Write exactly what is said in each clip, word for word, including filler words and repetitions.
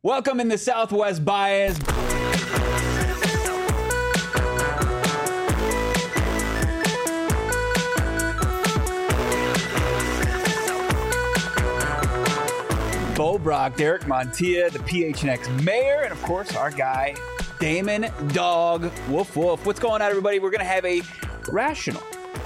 Welcome in the Southwest Bias. Bo Brock, Derek Montilla, the P H N X mayor, and of course our guy, Damon Dog. Woof, woof. What's going on, everybody? We're going to have a rational,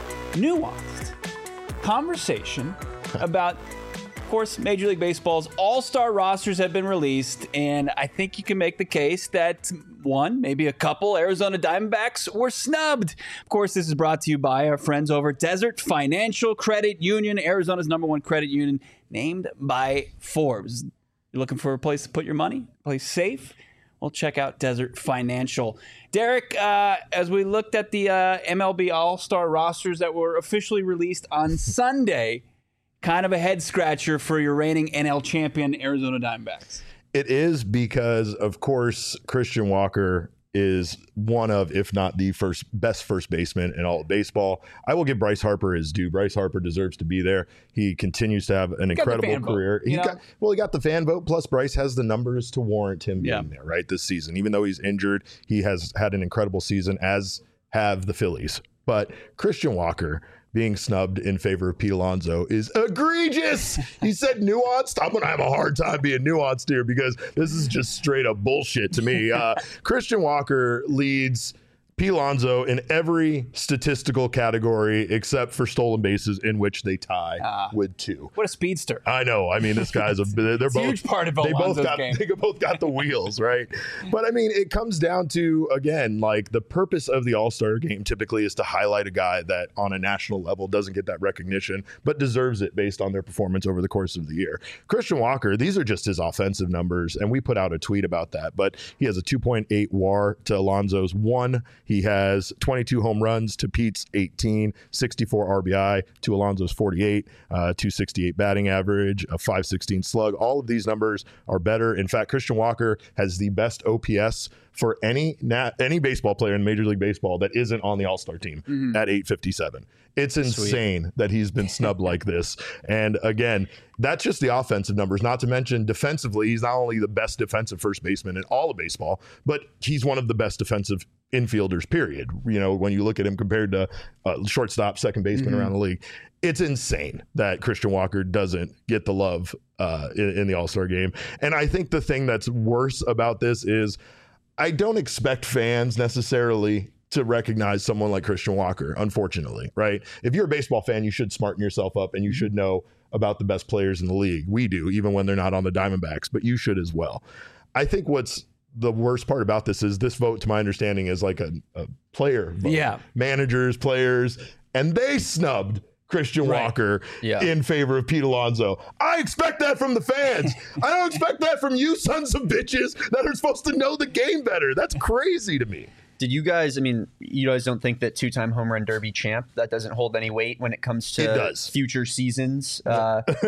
nuanced conversation about, of course, Major League Baseball's all-star rosters have been released, and I think you can make the case that one, maybe a couple Arizona Diamondbacks were snubbed. Of course, this is brought to you by our friends over at Desert Financial Credit Union, Arizona's number one credit union, named by Forbes. You're looking for a place to put your money, a place safe? Well, check out Desert Financial. Derek, uh, as we looked at the uh, M L B All-Star rosters that were officially released on Sunday, kind of a head-scratcher for your reigning N L champion Arizona Diamondbacks. It is because, of course, Christian Walker is one of, if not the first best first baseman in all of baseball. I will give Bryce Harper his due. Bryce Harper deserves to be there. He continues to have an incredible career. Vote, he got, well, he got the fan vote, plus Bryce has the numbers to warrant him being yeah. there, right, this season. Even though he's injured, he has had an incredible season, as have the Phillies. But Christian Walker being snubbed in favor of Pete Alonso is egregious. He said nuanced. I'm going to have a hard time being nuanced here because this is just straight up bullshit to me. Uh, Christian Walker leads Pete Alonso in every statistical category except for stolen bases, in which they tie uh, with two. What a speedster! I know. I mean, this guy's a. They're it's both a huge part of they Alonso's both got game. They both got the wheels, right? But I mean, it comes down to, again, like the purpose of the All-Star game typically is to highlight a guy that on a national level doesn't get that recognition, but deserves it based on their performance over the course of the year. Christian Walker, these are just his offensive numbers, and we put out a tweet about that. But he has a two point eight W A R to Alonso's one. He has twenty-two home runs to Pete's eighteen, sixty-four R B I to Alonso's forty-eight, uh, two sixty-eight batting average, a five sixteen slug. All of these numbers are better. In fact, Christian Walker has the best O P S for any nat- any baseball player in Major League Baseball that isn't on the All-Star team mm-hmm. at eight fifty-seven. It's insane Sweet. that he's been snubbed like this. And again, that's just the offensive numbers, not to mention defensively. He's not only the best defensive first baseman in all of baseball, but he's one of the best defensive infielders, period. You know, when you look at him compared to uh, shortstop, second baseman mm-hmm. around the league, it's insane that Christian Walker doesn't get the love uh, in, in the All-Star game. And I think the thing that's worse about this is I don't expect fans necessarily to recognize someone like Christian Walker, unfortunately, right? If you're a baseball fan, you should smarten yourself up and you should know about the best players in the league. We do, even when they're not on the Diamondbacks, but you should as well. I think what's the worst part about this is this vote, to my understanding, is like a, a player vote. Yeah. Managers, players, and they snubbed Christian right. Walker yeah. in favor of Pete Alonso. I expect that from the fans. I don't expect that from you sons of bitches that are supposed to know the game better. That's crazy to me. Did you guys, I mean, you guys don't think that two-time home run derby champ, that doesn't hold any weight when it comes to it does. future seasons? Uh, I,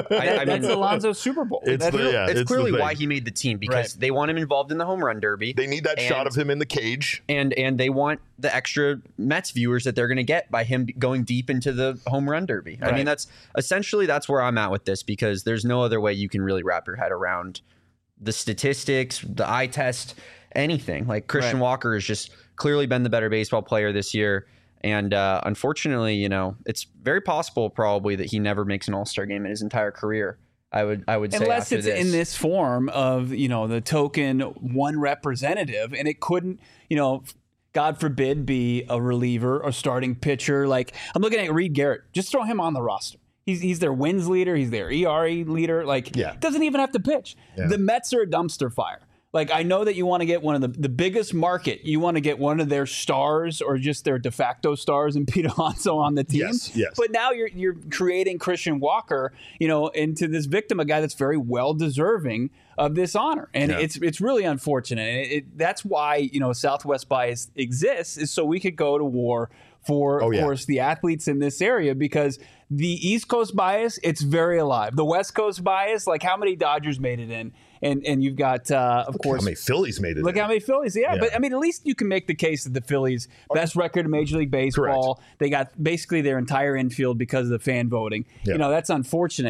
I mean, that's Alonso's Super Bowl. It's, that's the, yeah, it's, it's clearly why he made the team, because right. they want him involved in the home run derby. They need that and, shot of him in the cage. And and they want the extra Mets viewers that they're going to get by him going deep into the home run derby. Right. I mean, that's essentially that's where I'm at with this, because there's no other way you can really wrap your head around the statistics, the eye test, anything. Like Christian right. Walker has just clearly been the better baseball player this year. And uh, unfortunately, you know, it's very possible probably that he never makes an All-Star game in his entire career. I would I would say unless after it's this. in this form of, you know, the token one representative, and it couldn't, you know, God forbid, be a reliever or starting pitcher. Like, I'm looking at Reed Garrett. Just throw him on the roster. He's he's their wins leader. He's their E R A leader. Like, yeah. doesn't even have to pitch. Yeah. The Mets are a dumpster fire. Like, I know that you want to get one of the, the biggest market. You want to get one of their stars or just their de facto stars and Pete Alonso on the team. Yes, yes. But now you're you're creating Christian Walker, you know, into this victim, a guy that's very well deserving of this honor. And yeah. it's it's really unfortunate. And it, it, that's why, you know, Southwest Bias exists, is so we could go to war for, oh, of yeah. course, the athletes in this area, because the East Coast bias, it's very alive. The West Coast bias, like how many Dodgers made it in? And and you've got, uh, of look course, how many Phillies made it Look in. how many Phillies. Yeah, yeah, but I mean, at least you can make the case that the Phillies, best record in Major League Baseball. Correct. They got basically their entire infield because of the fan voting. Yeah. You know, that's unfortunate.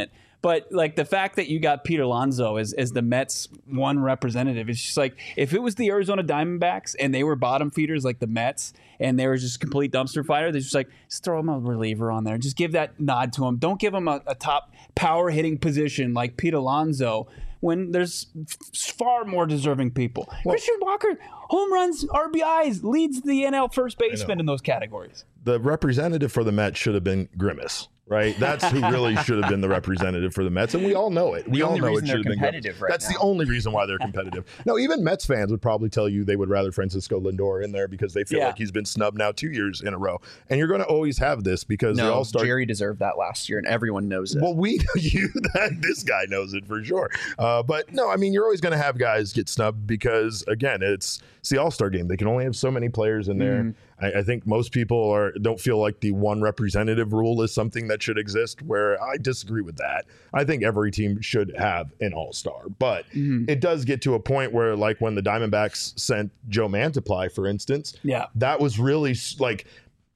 But like the fact that you got Pete Alonso as, as the Mets one representative, it's just like if it was the Arizona Diamondbacks and they were bottom feeders like the Mets and they were just complete dumpster fire, they're just like, just throw him a reliever on there. Just give that nod to him. Don't give him a, a top power hitting position like Pete Alonso when there's f- far more deserving people. Well, Christian Walker, home runs, R B Is, leads the N L first baseman in those categories. The representative for the Mets should have been Grimace. Right, that's who really should have been the representative for the Mets, and we all know it. We the all only know reason it should have been competitive right That's now. the only reason why they're competitive. No, even Mets fans would probably tell you they would rather Francisco Lindor in there because they feel Yeah. like he's been snubbed now two years in a row. And you're going to always have this because they No, all start. Jerry deserved that last year, and everyone knows it. Well, we you that this guy knows it for sure. Uh, but no, I mean you're always going to have guys get snubbed because again, it's it's the All-Star game. They can only have so many players in there. Mm. I, I think most people are don't feel like the one representative rule is something that should exist. Where I disagree with that. I think every team should have an All-Star, but Mm-hmm. it does get to a point where, like when the Diamondbacks sent Joe Mantiply, for instance, Yeah. that was really s- like.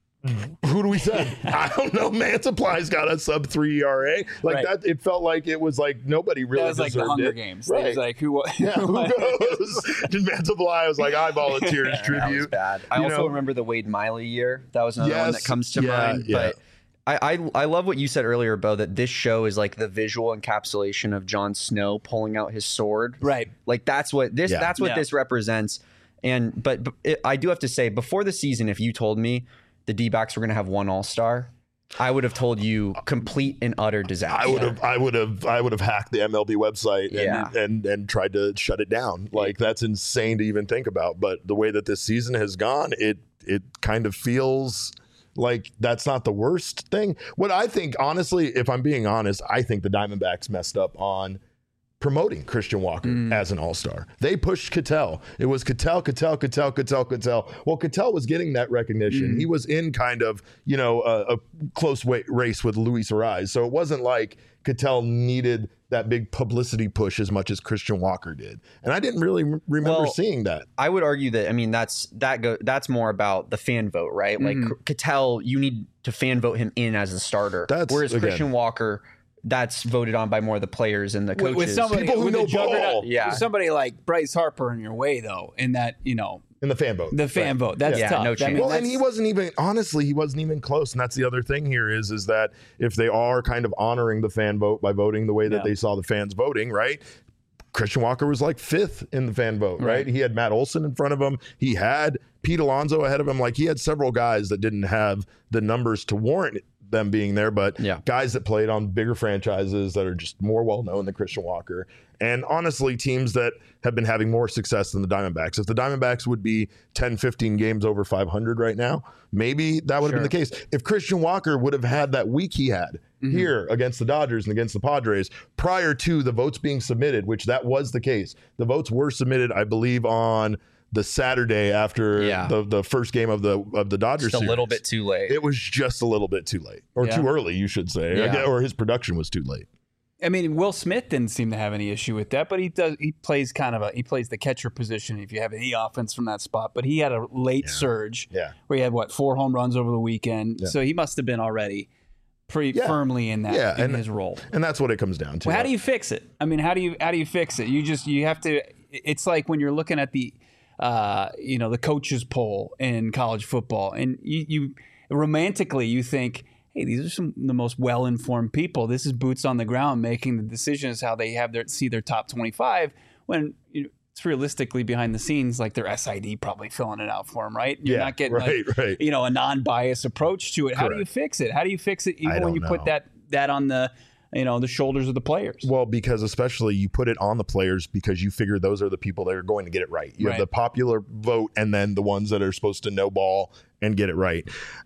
Who do we send? I don't know. Mantiply's got a sub three E R A. Like Right. that, it felt like it was like nobody really That was like the deserved Hunger it. Games. Right. It was like, who, Yeah, who goes? Did Mantiply was like, I volunteer as Yeah, that was tribute. bad. I You also know? remember the Wade Miley year. That was another one Yes, that comes to yeah, mind. yeah. But I, I I love what you said earlier, Bo, that this show is like the visual encapsulation of Jon Snow pulling out his sword. Right. Like that's what this Yeah. that's what Yeah. this represents. And but, but it, I do have to say, before the season, if you told me the D-backs were going to have one All-Star, I would have told you complete and utter disaster. I would have, I would have, I would have hacked the M L B website and, Yeah. and and tried to shut it down. Like that's insane to even think about. But the way that this season has gone, it it kind of feels like that's not the worst thing. What I think, honestly, if I'm being honest, I think the Diamondbacks messed up on promoting Christian Walker as an all-star. They pushed Ketel. It was Ketel, Ketel, Ketel, Ketel, Ketel. Well, Ketel was getting that recognition. He was in kind of, you know, a, a close wa- race with Luis Ariz. So it wasn't like Ketel needed that big publicity push as much as Christian Walker did. And I didn't really m- remember Well, seeing that. I would argue that I mean that's that go that's more about the fan vote, right? Like Ketel, you need to fan vote him in as a starter. That's- Whereas again- Christian Walker, that's voted on by more of the players and the With, coaches. with somebody, People who with know a juggernaut, ball. Yeah. with somebody like Bryce Harper in your way, though, in that, you know, In the fan vote. the fan Right. vote. That's Yeah, tough. no I chance. mean, Well, and that's- he wasn't even, honestly, he wasn't even close. And that's the other thing here is, is that if they are kind of honoring the fan vote by voting the way that Yeah. they saw the fans voting, right? Christian Walker was like fifth in the fan vote, right? Right. He had Matt Olson in front of him. He had Pete Alonso ahead of him. Like he had several guys that didn't have the numbers to warrant them being there, but Yeah. guys that played on bigger franchises that are just more well known than Christian Walker. And honestly, teams that have been having more success than the Diamondbacks. If the Diamondbacks would be ten, fifteen games over five hundred right now, maybe that would have been the case. If Christian Walker would have had that week he had here against the Dodgers and against the Padres prior to the votes being submitted, which that was the case. The votes were submitted, I believe, on the Saturday after Yeah. the, the first game of the of the Dodgers just a little series. bit too late. It was just a little bit too late, or Yeah. too early, you should say, Yeah. I guess- or his production was too late. I mean, Will Smith didn't seem to have any issue with that, but he does. He plays kind of a he plays the catcher position if you have any offense from that spot. But he had a late surge Yeah. where he had what four home runs over the weekend, Yeah. so he must have been already pretty Yeah. firmly in that Yeah, in and- his role. And that's what it comes down to. Well, how do you fix it? I mean, how do you how do you fix it? You just you have to. It's like when you're looking at the, uh, you know, the coaches poll in college football, and you, you romantically you think, hey, these are some of the most well informed people. This is boots on the ground making the decisions how they have their see their top twenty-five. When you know, it's realistically behind the scenes, like their S I D probably filling it out for them, right? You're Yeah, not getting right, like, right. you know, a non-biased approach to it. How do you Correct. fix it? How do you fix it even I when don't you put know. that that on the you know the shoulders of the players? Well, because especially you put it on the players because you figure those are the people that are going to get it right. You Right. have the popular vote and then the ones that are supposed to know ball and get it right.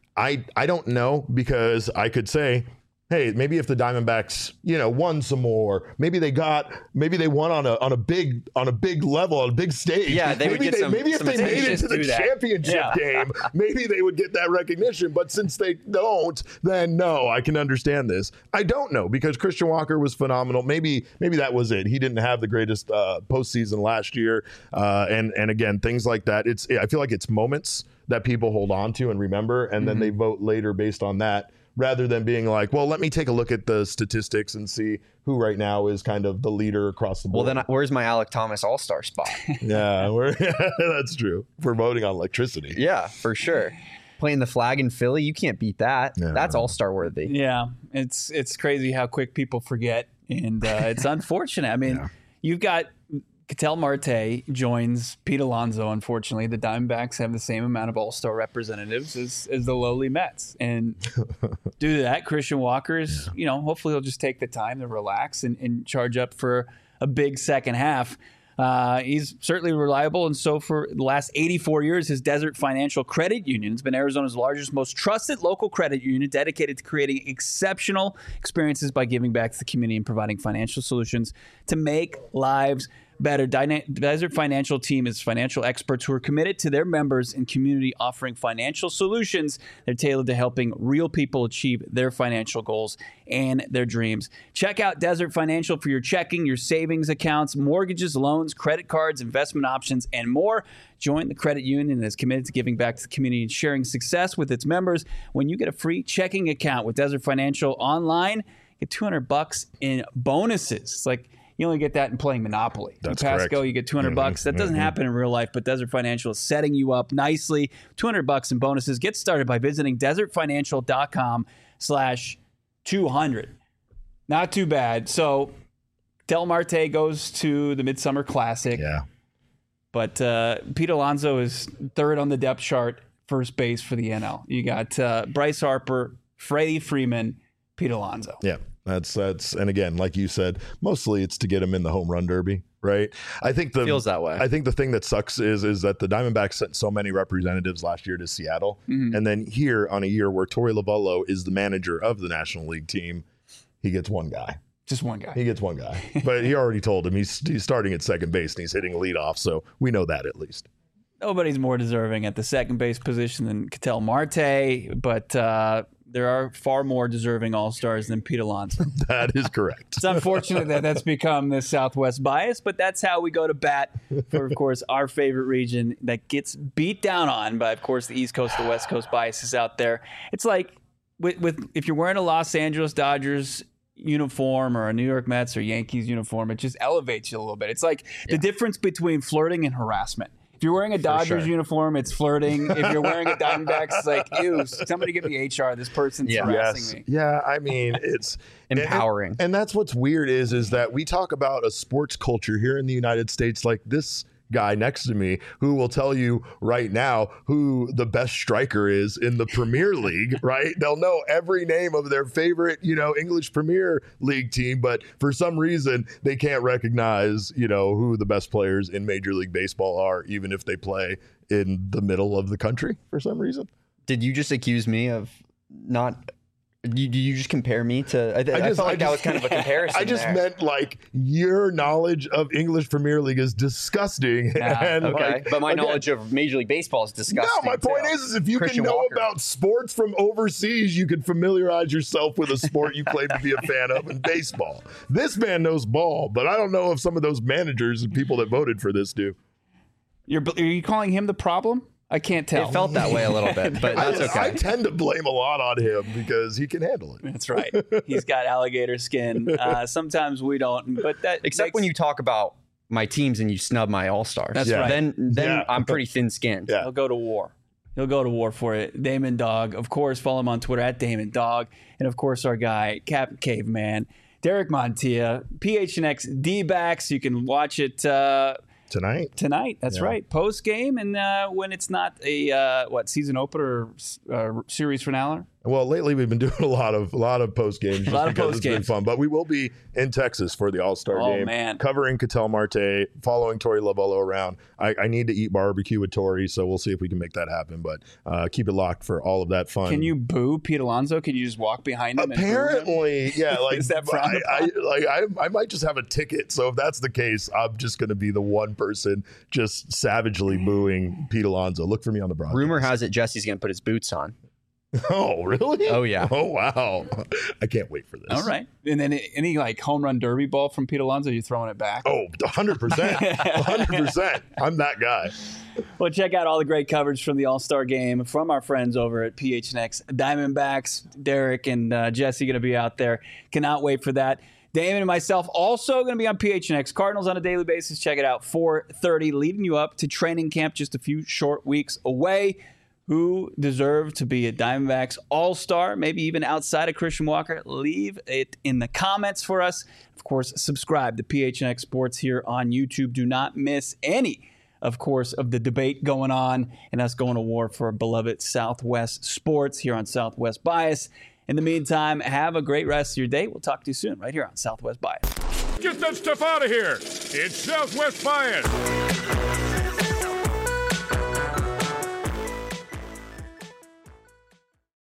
I I don't know because I could say, hey, maybe if the Diamondbacks, you know, won some more, maybe they got, maybe they won on a on a big on a big level, on a big stage. Yeah, they would maybe get some- maybe if some they made it attention. to the Do that. championship Yeah. game, maybe they would get that recognition. But since they don't, then no, I can understand this. I don't know because Christian Walker was phenomenal. Maybe maybe that was it. He didn't have the greatest uh, postseason last year, uh, and and again things like that. It's I feel like it's moments that people hold on to and remember, and then they vote later based on that. rather than being like, well, let me take a look at the statistics and see who right now is kind of the leader across the board. Well, then I, where's my Alec Thomas All-Star spot? yeah, we're, that's true. We're voting on electricity. Yeah, for sure. Playing the flag in Philly, you can't beat that. Yeah. That's All-Star worthy. Yeah, it's it's crazy how quick people forget, and uh, it's unfortunate. I mean, Yeah. you've got Ketel Marte joins Pete Alonso. Unfortunately, the Diamondbacks have the same amount of All-Star representatives as, as the lowly Mets, and due to that, Christian Walker is, you know, hopefully he'll just take the time to relax and, and charge up for a big second half. Uh, he's certainly reliable, and so for the last eighty-four years, his Desert Financial Credit Union has been Arizona's largest, most trusted local credit union dedicated to creating exceptional experiences by giving back to the community and providing financial solutions to make lives better. Dyna- Desert Financial team is financial experts who are committed to their members and community, offering financial solutions that are tailored to helping real people achieve their financial goals and their dreams. Check out Desert Financial for your checking, your savings accounts, mortgages, loans, credit cards, investment options, and more. Join the credit union that is committed to giving back to the community and sharing success with its members. When you get a free checking account with Desert Financial online, get two hundred bucks in bonuses. It's like, you only get that in playing Monopoly. That's in Pasco, correct. you get two hundred Mm-hmm, bucks. That doesn't mm-hmm. happen in real life, but Desert Financial is setting you up nicely. two hundred bucks in bonuses. Get started by visiting desertfinancial.com slash 200. Not too bad. So Del Marte goes to the Midsummer Classic, Yeah. but uh, Pete Alonso is third on the depth chart, first base for the N L. You got uh, Bryce Harper, Freddie Freeman, Pete Alonso. Yeah. That's that's and again, like you said, mostly it's to get him in the home run derby, right? I think the Feels that way. I think the thing that sucks is is that the Diamondbacks sent so many representatives last year to Seattle, Mhm. and then here on a year where Torey Lovullo is the manager of the National League team, he gets one guy. Just one guy. He gets one guy, but he already told him he's he's starting at second base and he's hitting leadoff, so we know that at least. Nobody's more deserving at the second base position than Ketel Marte, but uh, there are far more deserving All-Stars than Pete Alonso. That is correct. It's unfortunate that that's become the Southwest bias, but that's how we go to bat for, of course, our favorite region that gets beat down on by, of course, the East Coast, the West Coast biases out there. It's like with, with if you're wearing a Los Angeles Dodgers uniform or a New York Mets or Yankees uniform, it just elevates you a little bit. It's like the difference between flirting and harassment. If you're wearing a Dodgers sure. uniform, it's flirting. If you're wearing a Diamondbacks, it's like, ew, somebody get me H R. This person's Yeah. harassing Yes. me. Yeah, I mean, it's Empowering. And, and that's what's weird is is that we talk about a sports culture here in the United States like this guy next to me who will tell you right now who the best striker is in the Premier League, right? They'll know every name of their favorite, you know, English Premier League team, but for some reason they can't recognize, you know, who the best players in Major League Baseball are, even if they play in the middle of the country for some reason. Did you just accuse me of not? You, do you just compare me to? I, I, just- felt like I that was just- kind of a comparison. I just there. meant like your knowledge of English Premier League is disgusting. Yeah, and Okay, like, but my again, knowledge of Major League Baseball is disgusting. No, my point too. is, is if you Christian can know Walker. about sports from overseas, you can familiarize yourself with a sport you claim to be a fan of in baseball. This man knows ball, but I don't know if some of those managers and people that voted for this do. You're, are you calling him the problem? I can't tell. It felt that way a little bit, but that's I, okay. I tend to blame a lot on him because he can handle it. That's right. He's got alligator skin. Uh, sometimes we don't, but that Except makes- when you talk about my teams and you snub my all stars. That's Yeah. right. Then then Yeah. I'm pretty thin skinned. Yeah. He'll go to war. He'll go to war for it. Damon Dog, of course. Follow him on Twitter at Damon Dog, and of course our guy Captain Caveman, Derek Montilla, P H N X D-backs. You can watch it uh, Tonight? tonight. That's Yeah. right, post game, and uh, when it's not a uh, what season opener or uh, series finale. Well, lately we've been doing a lot of a lot of post games, just lot of because it's been post-games. fun. But we will be in Texas for the All Star Oh, game, man. covering Ketel Marte, following Torey Lovullo around. I, I need to eat barbecue with Torey, so we'll see if we can make that happen. But uh, keep it locked for all of that fun. Can you boo Pete Alonso? Can you just walk behind him? and boo him? Apparently, yeah. Like Is that frowned I, I, like I, I might just have a ticket. So if that's the case, I'm just going to be the one person just savagely booing Pete Alonso. Look for me on the broadcast. Rumor has it Jesse's going to put his boots on. Oh, really? Oh, yeah. Oh, wow. I can't wait for this. All right. And then any like home run derby ball from Pete Alonso, you throwing it back? Oh, one hundred percent. one hundred percent. I'm that guy. Well, check out all the great coverage from the All-Star Game from our friends over at P H N X Diamondbacks. Derek and uh, Jesse going to be out there. Cannot wait for that. Damon and myself also going to be on P H N X Cardinals on a daily basis. Check it out, four thirty, leading you up to training camp just a few short weeks away. Who deserve to be a Diamondbacks All-Star, maybe even outside of Christian Walker? Leave it in the comments for us. Of course, subscribe to P H N X Sports here on YouTube. Do not miss any, of course, of the debate going on and us going to war for beloved Southwest sports here on Southwest Bias. In the meantime, have a great rest of your day. We'll talk to you soon right here on Southwest Bias. Get that stuff out of here. It's Southwest Bias.